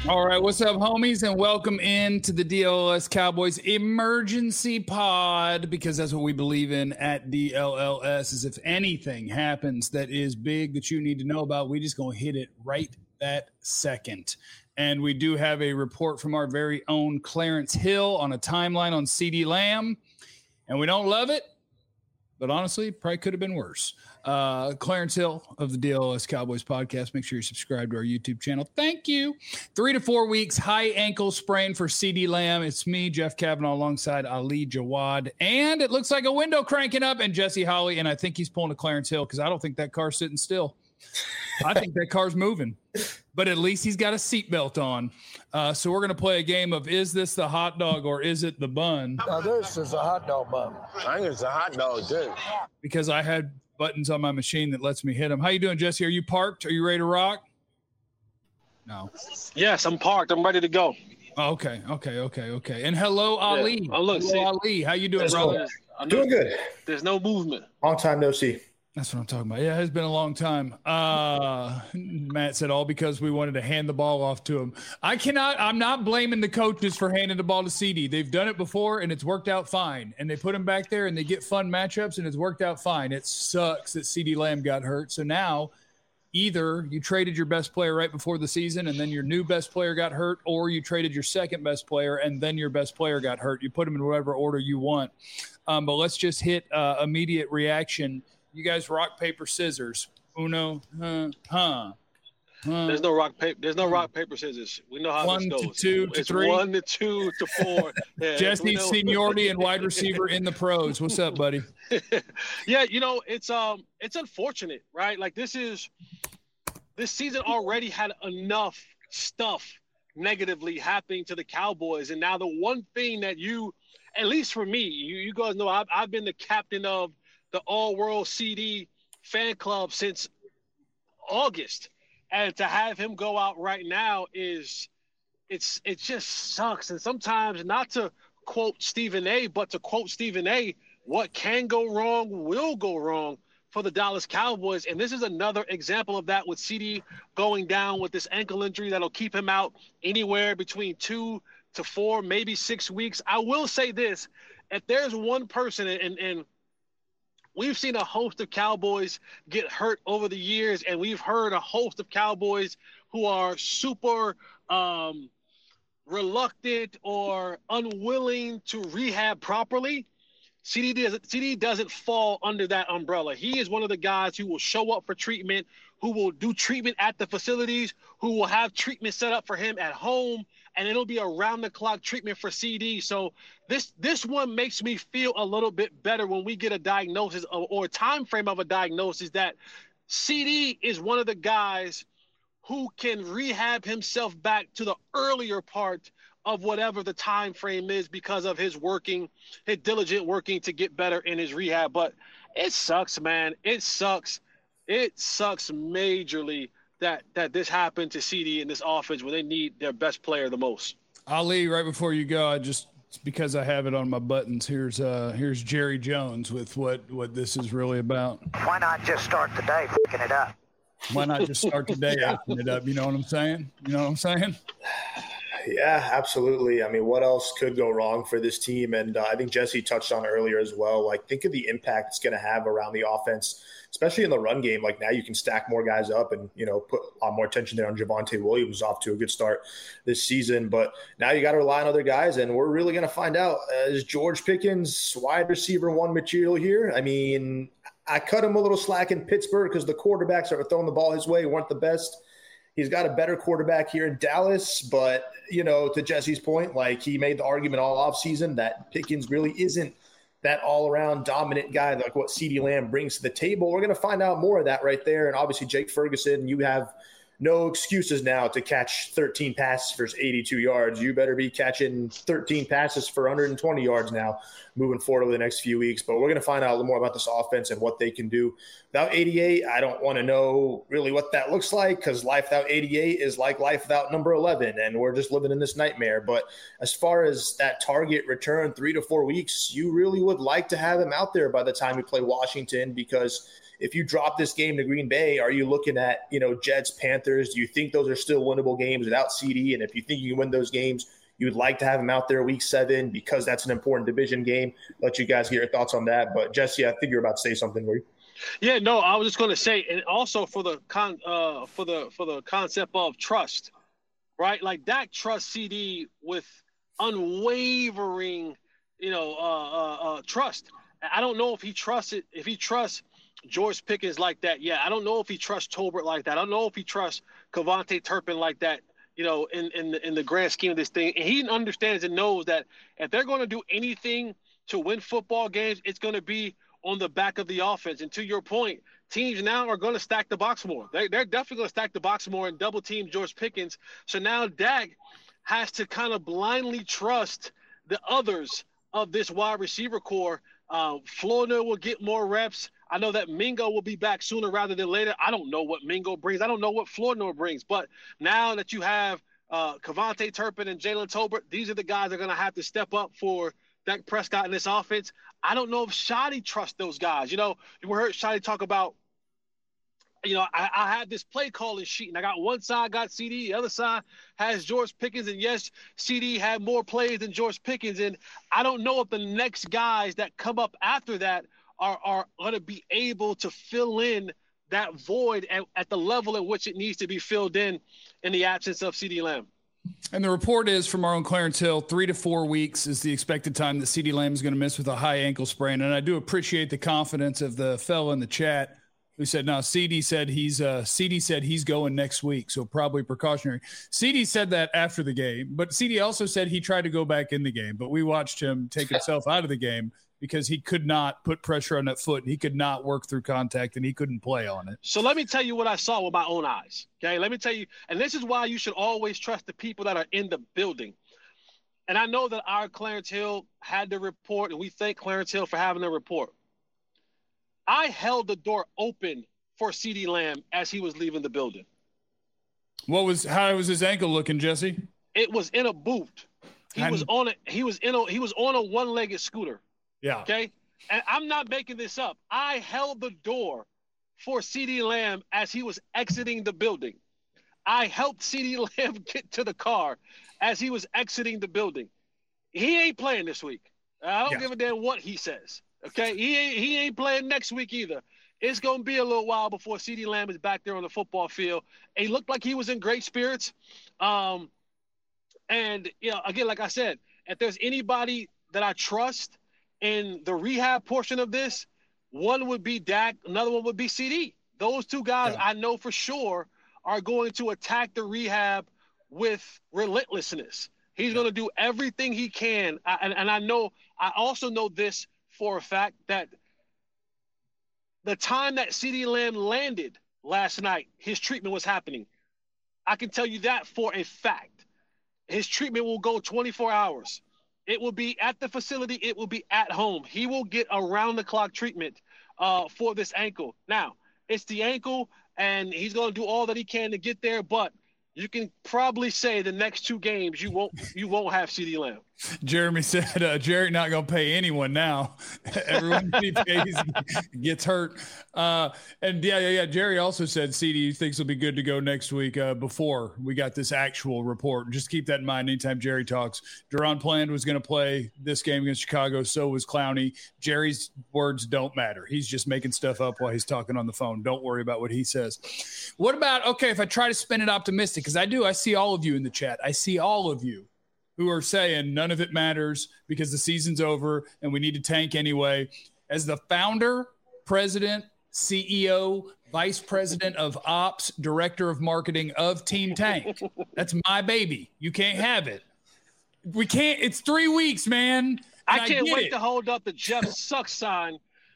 All right, what's up, homies, and welcome in to the DLLS Cowboys Emergency Pod, because that's what we believe in at DLLS, is if anything happens that is big that you need to know about, we just gonna hit it right that second. And we do have a report from our very own Clarence Hill on a timeline on CeeDee Lamb, and we don't love it, but honestly, probably could have been worse. Clarence Hill of the DLS Cowboys podcast. Make sure you subscribe to our YouTube channel. Thank you. 3 to 4 weeks, high ankle sprain for CeeDee Lamb. It's me, Jeff Kavanaugh, alongside Ali Jawad. And it looks like a window cranking up and Jesse Holley. And I think he's pulling a Clarence Hill because I don't think that car's sitting still. I think that car's moving. But at least he's got a seatbelt on. So we're going to play a game of, is this the hot dog or is it the bun? Now this is a hot dog bun. I think it's a hot dog, too. Because I had buttons on my machine that lets me hit them. How you doing, Jesse? Are you parked? Are you ready to rock? No. Yes, I'm parked. I'm ready to go. Oh, okay. And hello, Ali. Oh, look, hello, Ali. How you doing, brother? Doing good. There's no movement. Long time no see. That's what I'm talking about. Yeah, it has been a long time. Matt said all because we wanted to hand the ball off to him. I'm not blaming the coaches for handing the ball to CeeDee. They've done it before and it's worked out fine. And they put him back there and they get fun matchups and it's worked out fine. It sucks that CeeDee Lamb got hurt. So now either you traded your best player right before the season and then your new best player got hurt, or you traded your second best player and then your best player got hurt. You put them in whatever order you want. But let's just hit immediate reaction. You guys rock, paper, scissors. Uno, There's no rock, paper. There's no rock, paper, scissors. We know how 1 this to goes. 2 to it's 3. 1 to 2 to 4. Yeah, Jesse's seniority and wide receiver in the pros. What's up, buddy? Yeah, it's unfortunate, right? Like this season already had enough stuff negatively happening to the Cowboys, and now the one thing that at least for me, you guys know, I've been the captain of the all-world CeeDee fan club since August. And to have him go out right now it just sucks. And sometimes, not to quote Stephen A., but to quote Stephen A., what can go wrong will go wrong for the Dallas Cowboys. And this is another example of that, with CeeDee going down with this ankle injury that'll keep him out anywhere between 2 to 4, maybe 6 weeks. I will say this, if there's one person, and we've seen a host of Cowboys get hurt over the years, and we've heard a host of Cowboys who are super reluctant or unwilling to rehab properly. CeeDee doesn't fall under that umbrella. He is one of the guys who will show up for treatment, who will do treatment at the facilities, who will have treatment set up for him at home, and it'll be around-the-clock treatment for CeeDee. So this one makes me feel a little bit better when we get a diagnosis or a time frame of a diagnosis that CeeDee is one of the guys who can rehab himself back to the earlier part of whatever the time frame is because of his diligent working to get better in his rehab. But it sucks, man. It sucks. It sucks majorly that this happened to CeeDee in this offense when they need their best player the most. Ali, right before you go, because I have it on my buttons, here's Jerry Jones with what this is really about. Why not just start the day fucking it up? Why not just start the day fucking it up? You know what I'm saying? Yeah, absolutely. I mean, what else could go wrong for this team? And I think Jesse touched on it earlier as well. Like, think of the impact it's going to have around the offense, especially in the run game. Like, now you can stack more guys up and, put a lot more attention there on Javonte Williams, off to a good start this season. But now you got to rely on other guys, and we're really going to find out, is George Pickens wide receiver one material here? I mean, I cut him a little slack in Pittsburgh because the quarterbacks that were throwing the ball his way weren't the best. He's got a better quarterback here in Dallas, but, to Jesse's point, like, he made the argument all offseason that Pickens really isn't that all-around dominant guy like what CeeDee Lamb brings to the table. We're going to find out more of that right there. And obviously Jake Ferguson, you have no excuses now to catch 13 passes for 82 yards. You better be catching 13 passes for 120 yards now moving forward over the next few weeks. But we're going to find out a little more about this offense and what they can do. Without 88, I don't want to know really what that looks like, because life without 88 is like life without number 11, and we're just living in this nightmare. But as far as that target return, 3 to 4 weeks, you really would like to have him out there by the time we play Washington, because if you drop this game to Green Bay, are you looking at, Jets, Panthers, Panthers? Do you think those are still winnable games without CD? And if you think you can win those games, you would like to have him out there week 7 because that's an important division game. Let you guys get your thoughts on that. But Jesse, I think you're about to say something, were you? Yeah, no, I was just going to say, and also for the concept of trust, right? Like Dak trusts CD with unwavering, trust. I don't know if he trusts it. If he trusts George Pickens like that, yeah. I don't know if he trusts Tolbert like that. I don't know if he trusts KaVontae Turpin like that. In the grand scheme of this thing, and he understands and knows that if they're going to do anything to win football games, it's going to be on the back of the offense. And to your point, teams now are going to stack the box more. They're definitely going to stack the box more and double team George Pickens. So now Dak has to kind of blindly trust the others of this wide receiver core. Flournoy will get more reps. I know that Mingo will be back sooner rather than later. I don't know what Mingo brings. I don't know what Flournoy brings. But now that you have KaVontae Turpin and Jalen Tolbert, these are the guys that are going to have to step up for Dak Prescott in this offense. I don't know if Shotty trusts those guys. You heard Shotty talk about, I had this play calling sheet, and I got one side got CD, the other side has George Pickens, and yes, CD had more plays than George Pickens, and I don't know if the next guys that come up after that are going to be able to fill in that void at the level at which it needs to be filled in the absence of CeeDee Lamb. And the report is from our own Clarence Hill, 3 to 4 weeks is the expected time that CeeDee Lamb is going to miss with a high ankle sprain. And I do appreciate the confidence of the fellow in the chat who said, no, CD said he's going next week, so probably precautionary. CD said that after the game, but CD also said he tried to go back in the game, but we watched him take himself out of the game because he could not put pressure on that foot. He could not work through contact, and he couldn't play on it. So let me tell you what I saw with my own eyes, okay? Let me tell you, and this is why you should always trust the people that are in the building. And I know that our Clarence Hill had the report, and we thank Clarence Hill for having the report. I held the door open for CeeDee Lamb as he was leaving the building. How was his ankle looking, Jesse? It was in a boot. He was on a one-legged scooter. Yeah. Okay. And I'm not making this up. I held the door for CeeDee Lamb as he was exiting the building. I helped CeeDee Lamb get to the car as he was exiting the building. He ain't playing this week. I don't give a damn what he says. Okay. He ain't playing next week either. It's going to be a little while before CeeDee Lamb is back there on the football field. And he looked like he was in great spirits. And again, like I said, if there's anybody that I trust in the rehab portion of this, one would be Dak, another one would be CD. Those two guys I know for sure are going to attack the rehab with relentlessness. He's going to do everything he can. I also know this for a fact that the time that CeeDee Lamb landed last night, his treatment was happening. I can tell you that for a fact. His treatment will go 24 hours. It will be at the facility. It will be at home. He will get around-the-clock treatment for this ankle. Now, it's the ankle, and he's going to do all that he can to get there, but you can probably say the next 2 games you won't have CeeDee Lamb. Jeremy said, Jerry not going to pay anyone now. Everyone he pays gets hurt. And Jerry also said CD thinks he'll be good to go next week before we got this actual report. Just keep that in mind anytime Jerry talks. Deron Bland was going to play this game against Chicago. So was Clowney. Jerry's words don't matter. He's just making stuff up while he's talking on the phone. Don't worry about what he says. What about, if I try to spin it optimistic, because I see all of you in the chat. I see all of you who are saying none of it matters because the season's over and we need to tank anyway. As the founder, president, CEO, vice president of ops, director of marketing of Team Tank, that's my baby. You can't have it. We can't. It's 3 weeks, man. I can't wait to hold up the Jeff Sucks sign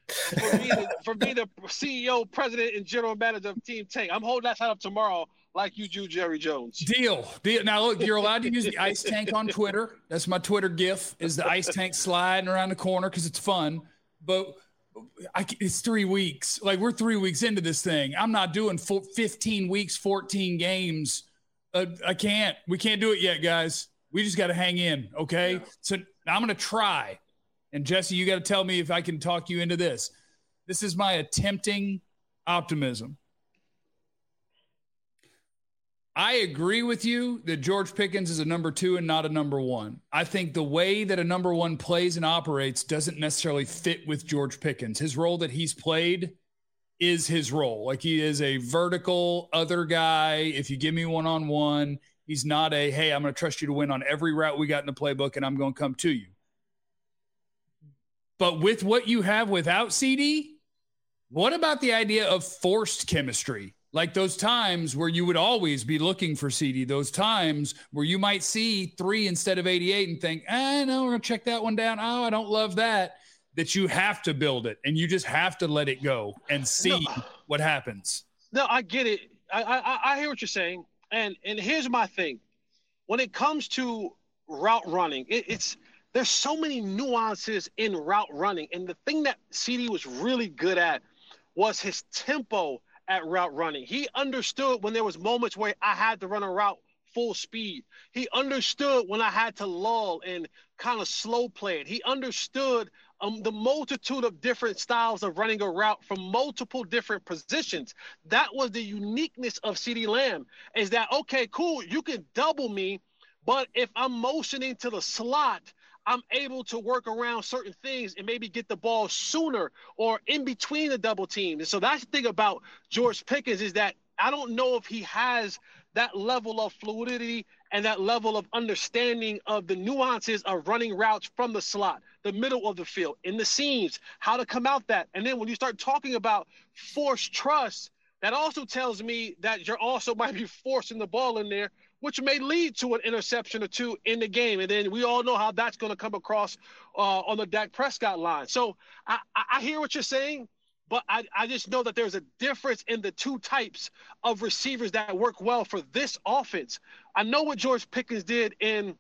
for being the CEO, president, and general manager of Team Tank. I'm holding that sign up tomorrow. Like you do, Jerry Jones. Deal. Now, look, you're allowed to use the ice tank on Twitter. That's my Twitter gif, is the ice tank sliding around the corner because it's fun. But it's 3 weeks. Like, we're 3 weeks into this thing. I'm not doing 15 weeks, 14 games. I can't. We can't do it yet, guys. We just got to hang in, okay? Yeah. So I'm going to try. And, Jesse, you got to tell me if I can talk you into this. This is my attempting optimism. I agree with you that George Pickens is a number 2 and not a number 1. I think the way that a number 1 plays and operates doesn't necessarily fit with George Pickens. His role that he's played is his role. Like, he is a vertical other guy. If you give me one-on-one, he's not a, hey, I'm going to trust you to win on every route we got in the playbook and I'm going to come to you. But with what you have without CD, what about the idea of forced chemistry? Like those times where you would always be looking for CD, those times where you might see 3 instead of 88 and think, no, we're going to check that one down. Oh, I don't love that. That you have to build it and you just have to let it go and see what happens. No, I get it. I hear what you're saying. And here's my thing. When it comes to route running, there's so many nuances in route running. And the thing that CD was really good at was his tempo at route running. He understood when there was moments where I had to run a route full speed. He understood when I had to lull and kind of slow play it. He understood the multitude of different styles of running a route from multiple different positions. That was the uniqueness of CeeDee Lamb, is that, okay, cool, you can double me, but if I'm motioning to the slot, I'm able to work around certain things and maybe get the ball sooner or in between the double teams. And so that's the thing about George Pickens, is that I don't know if he has that level of fluidity and that level of understanding of the nuances of running routes from the slot, the middle of the field, in the seams, how to come out that. And then when you start talking about forced trust, that also tells me that you're also might be forcing the ball in there, which may lead to an interception or two in the game. And then we all know how that's going to come across on the Dak Prescott line. So I hear what you're saying, but I just know that there's a difference in the two types of receivers that work well for this offense. I know what George Pickens did in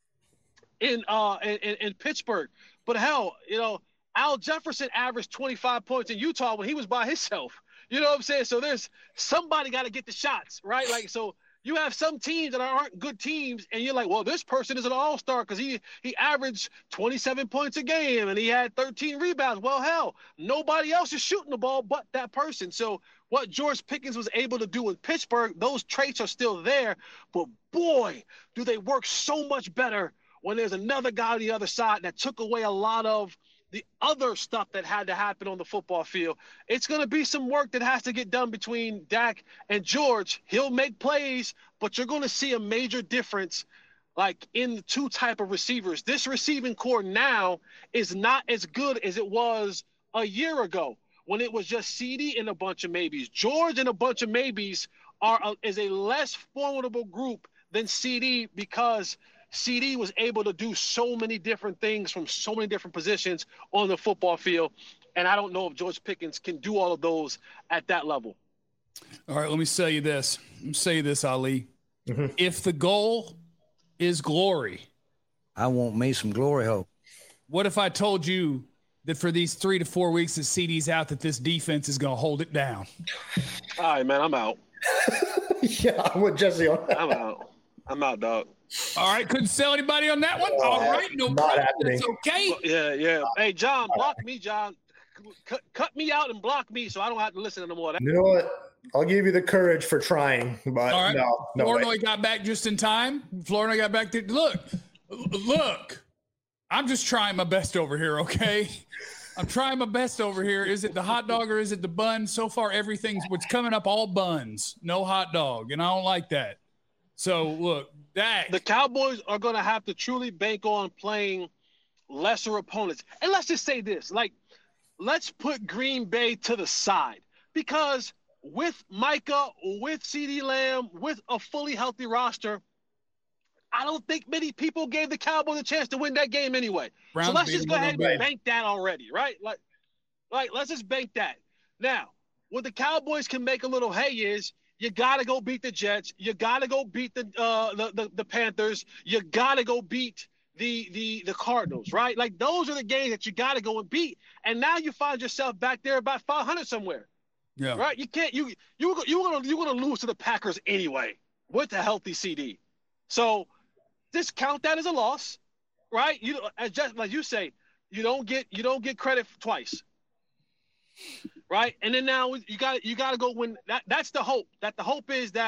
Pittsburgh, but hell, Al Jefferson averaged 25 points in Utah when he was by himself. You know what I'm saying? So there's somebody got to get the shots, right? Like, so you have some teams that aren't good teams, and you're like, well, this person is an all-star because he averaged 27 points a game and he had 13 rebounds. Well, hell, nobody else is shooting the ball but that person. So what George Pickens was able to do in Pittsburgh, those traits are still there. But boy, do they work so much better when there's another guy on the other side that took away a lot of the other stuff that had to happen on the football field. It's going to be some work that has to get done between Dak and George. He'll make plays, but you're going to see a major difference, like in the two type of receivers. This receiving core now is not as good as it was a year ago when it was just CD and a bunch of maybes. George and a bunch of maybes is a less formidable group than CD, because CD was able to do so many different things from so many different positions on the football field. And I don't know if George Pickens can do all of those at that level. All right, let me say you this. Ali. Mm-hmm. If the goal is glory, I want me some glory hole. What if I told you that for these 3 to 4 weeks that CD's out, that this defense is going to hold it down? All right, man, I'm out. Yeah, I'm with Jesse on that. I'm out, dog. All right, couldn't sell anybody on that one. All right, no problem. It's okay. Yeah. Hey, John, block me, John. Cut me out and block me so I don't have to listen to more. You know what? I'll give you the courage for trying, but all right. No. Flournoy got back just in time. Flournoy got back there. Look. I'm just trying my best over here, okay? I'm trying my best over here. Is it the hot dog or is it the bun? So far, everything's what's coming up, all buns, no hot dog, and I don't like that. So, look, the Cowboys are going to have to truly bank on playing lesser opponents. And let's just say this, let's put Green Bay to the side, because with Micah, with CeeDee Lamb, with a fully healthy roster, I don't think many people gave the Cowboys a chance to win that game anyway. So let's just go ahead and bank that already, right? Like let's just bank that. Now, what the Cowboys can make a little hay is, you got to go beat the Jets. You got to go beat the Panthers. You got to go beat the Cardinals, right? Like, those are the games that you got to go and beat. And now you find yourself back there about 500 somewhere. Yeah. Right? You can't. You're gonna lose to the Packers anyway with a healthy CD. So just count that as a loss, right? Just like you say, you don't get credit twice. Right, and then now you got to go win. That's the hope. That the hope is that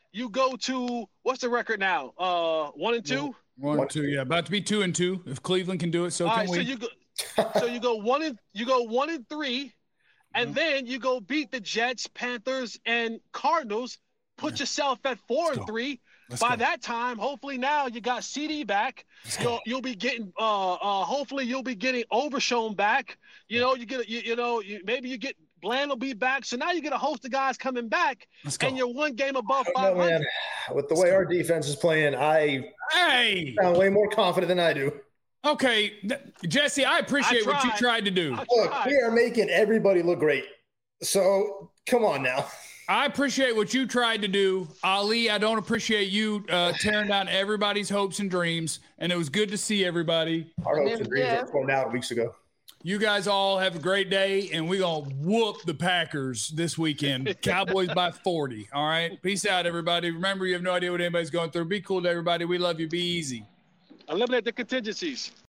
you go to what's the record now? 1-2. 1-2, yeah, about to be 2-2. If Cleveland can do it, so All can right, we. so you go 1-3, and then you go beat the Jets, Panthers, and Cardinals. Put yourself at 4-3. By that time, hopefully now you got CD back. You'll be getting hopefully you'll be getting Overshown back. You know, maybe you get Bland will be back. So now you get a host of guys coming back, and you're one game above 500. With the way our defense is playing, I sound way more confident than I do. Okay, Jesse, I appreciate what you tried to do. Look, we are making everybody look great. So come on now. I appreciate what you tried to do. Ali, I don't appreciate you tearing down everybody's hopes and dreams. And it was good to see everybody. Our hopes and dreams were torn out weeks ago. You guys all have a great day, and we're going to whoop the Packers this weekend. Cowboys by 40, all right? Peace out, everybody. Remember, you have no idea what anybody's going through. Be cool to everybody. We love you. Be easy. Eliminate the contingencies.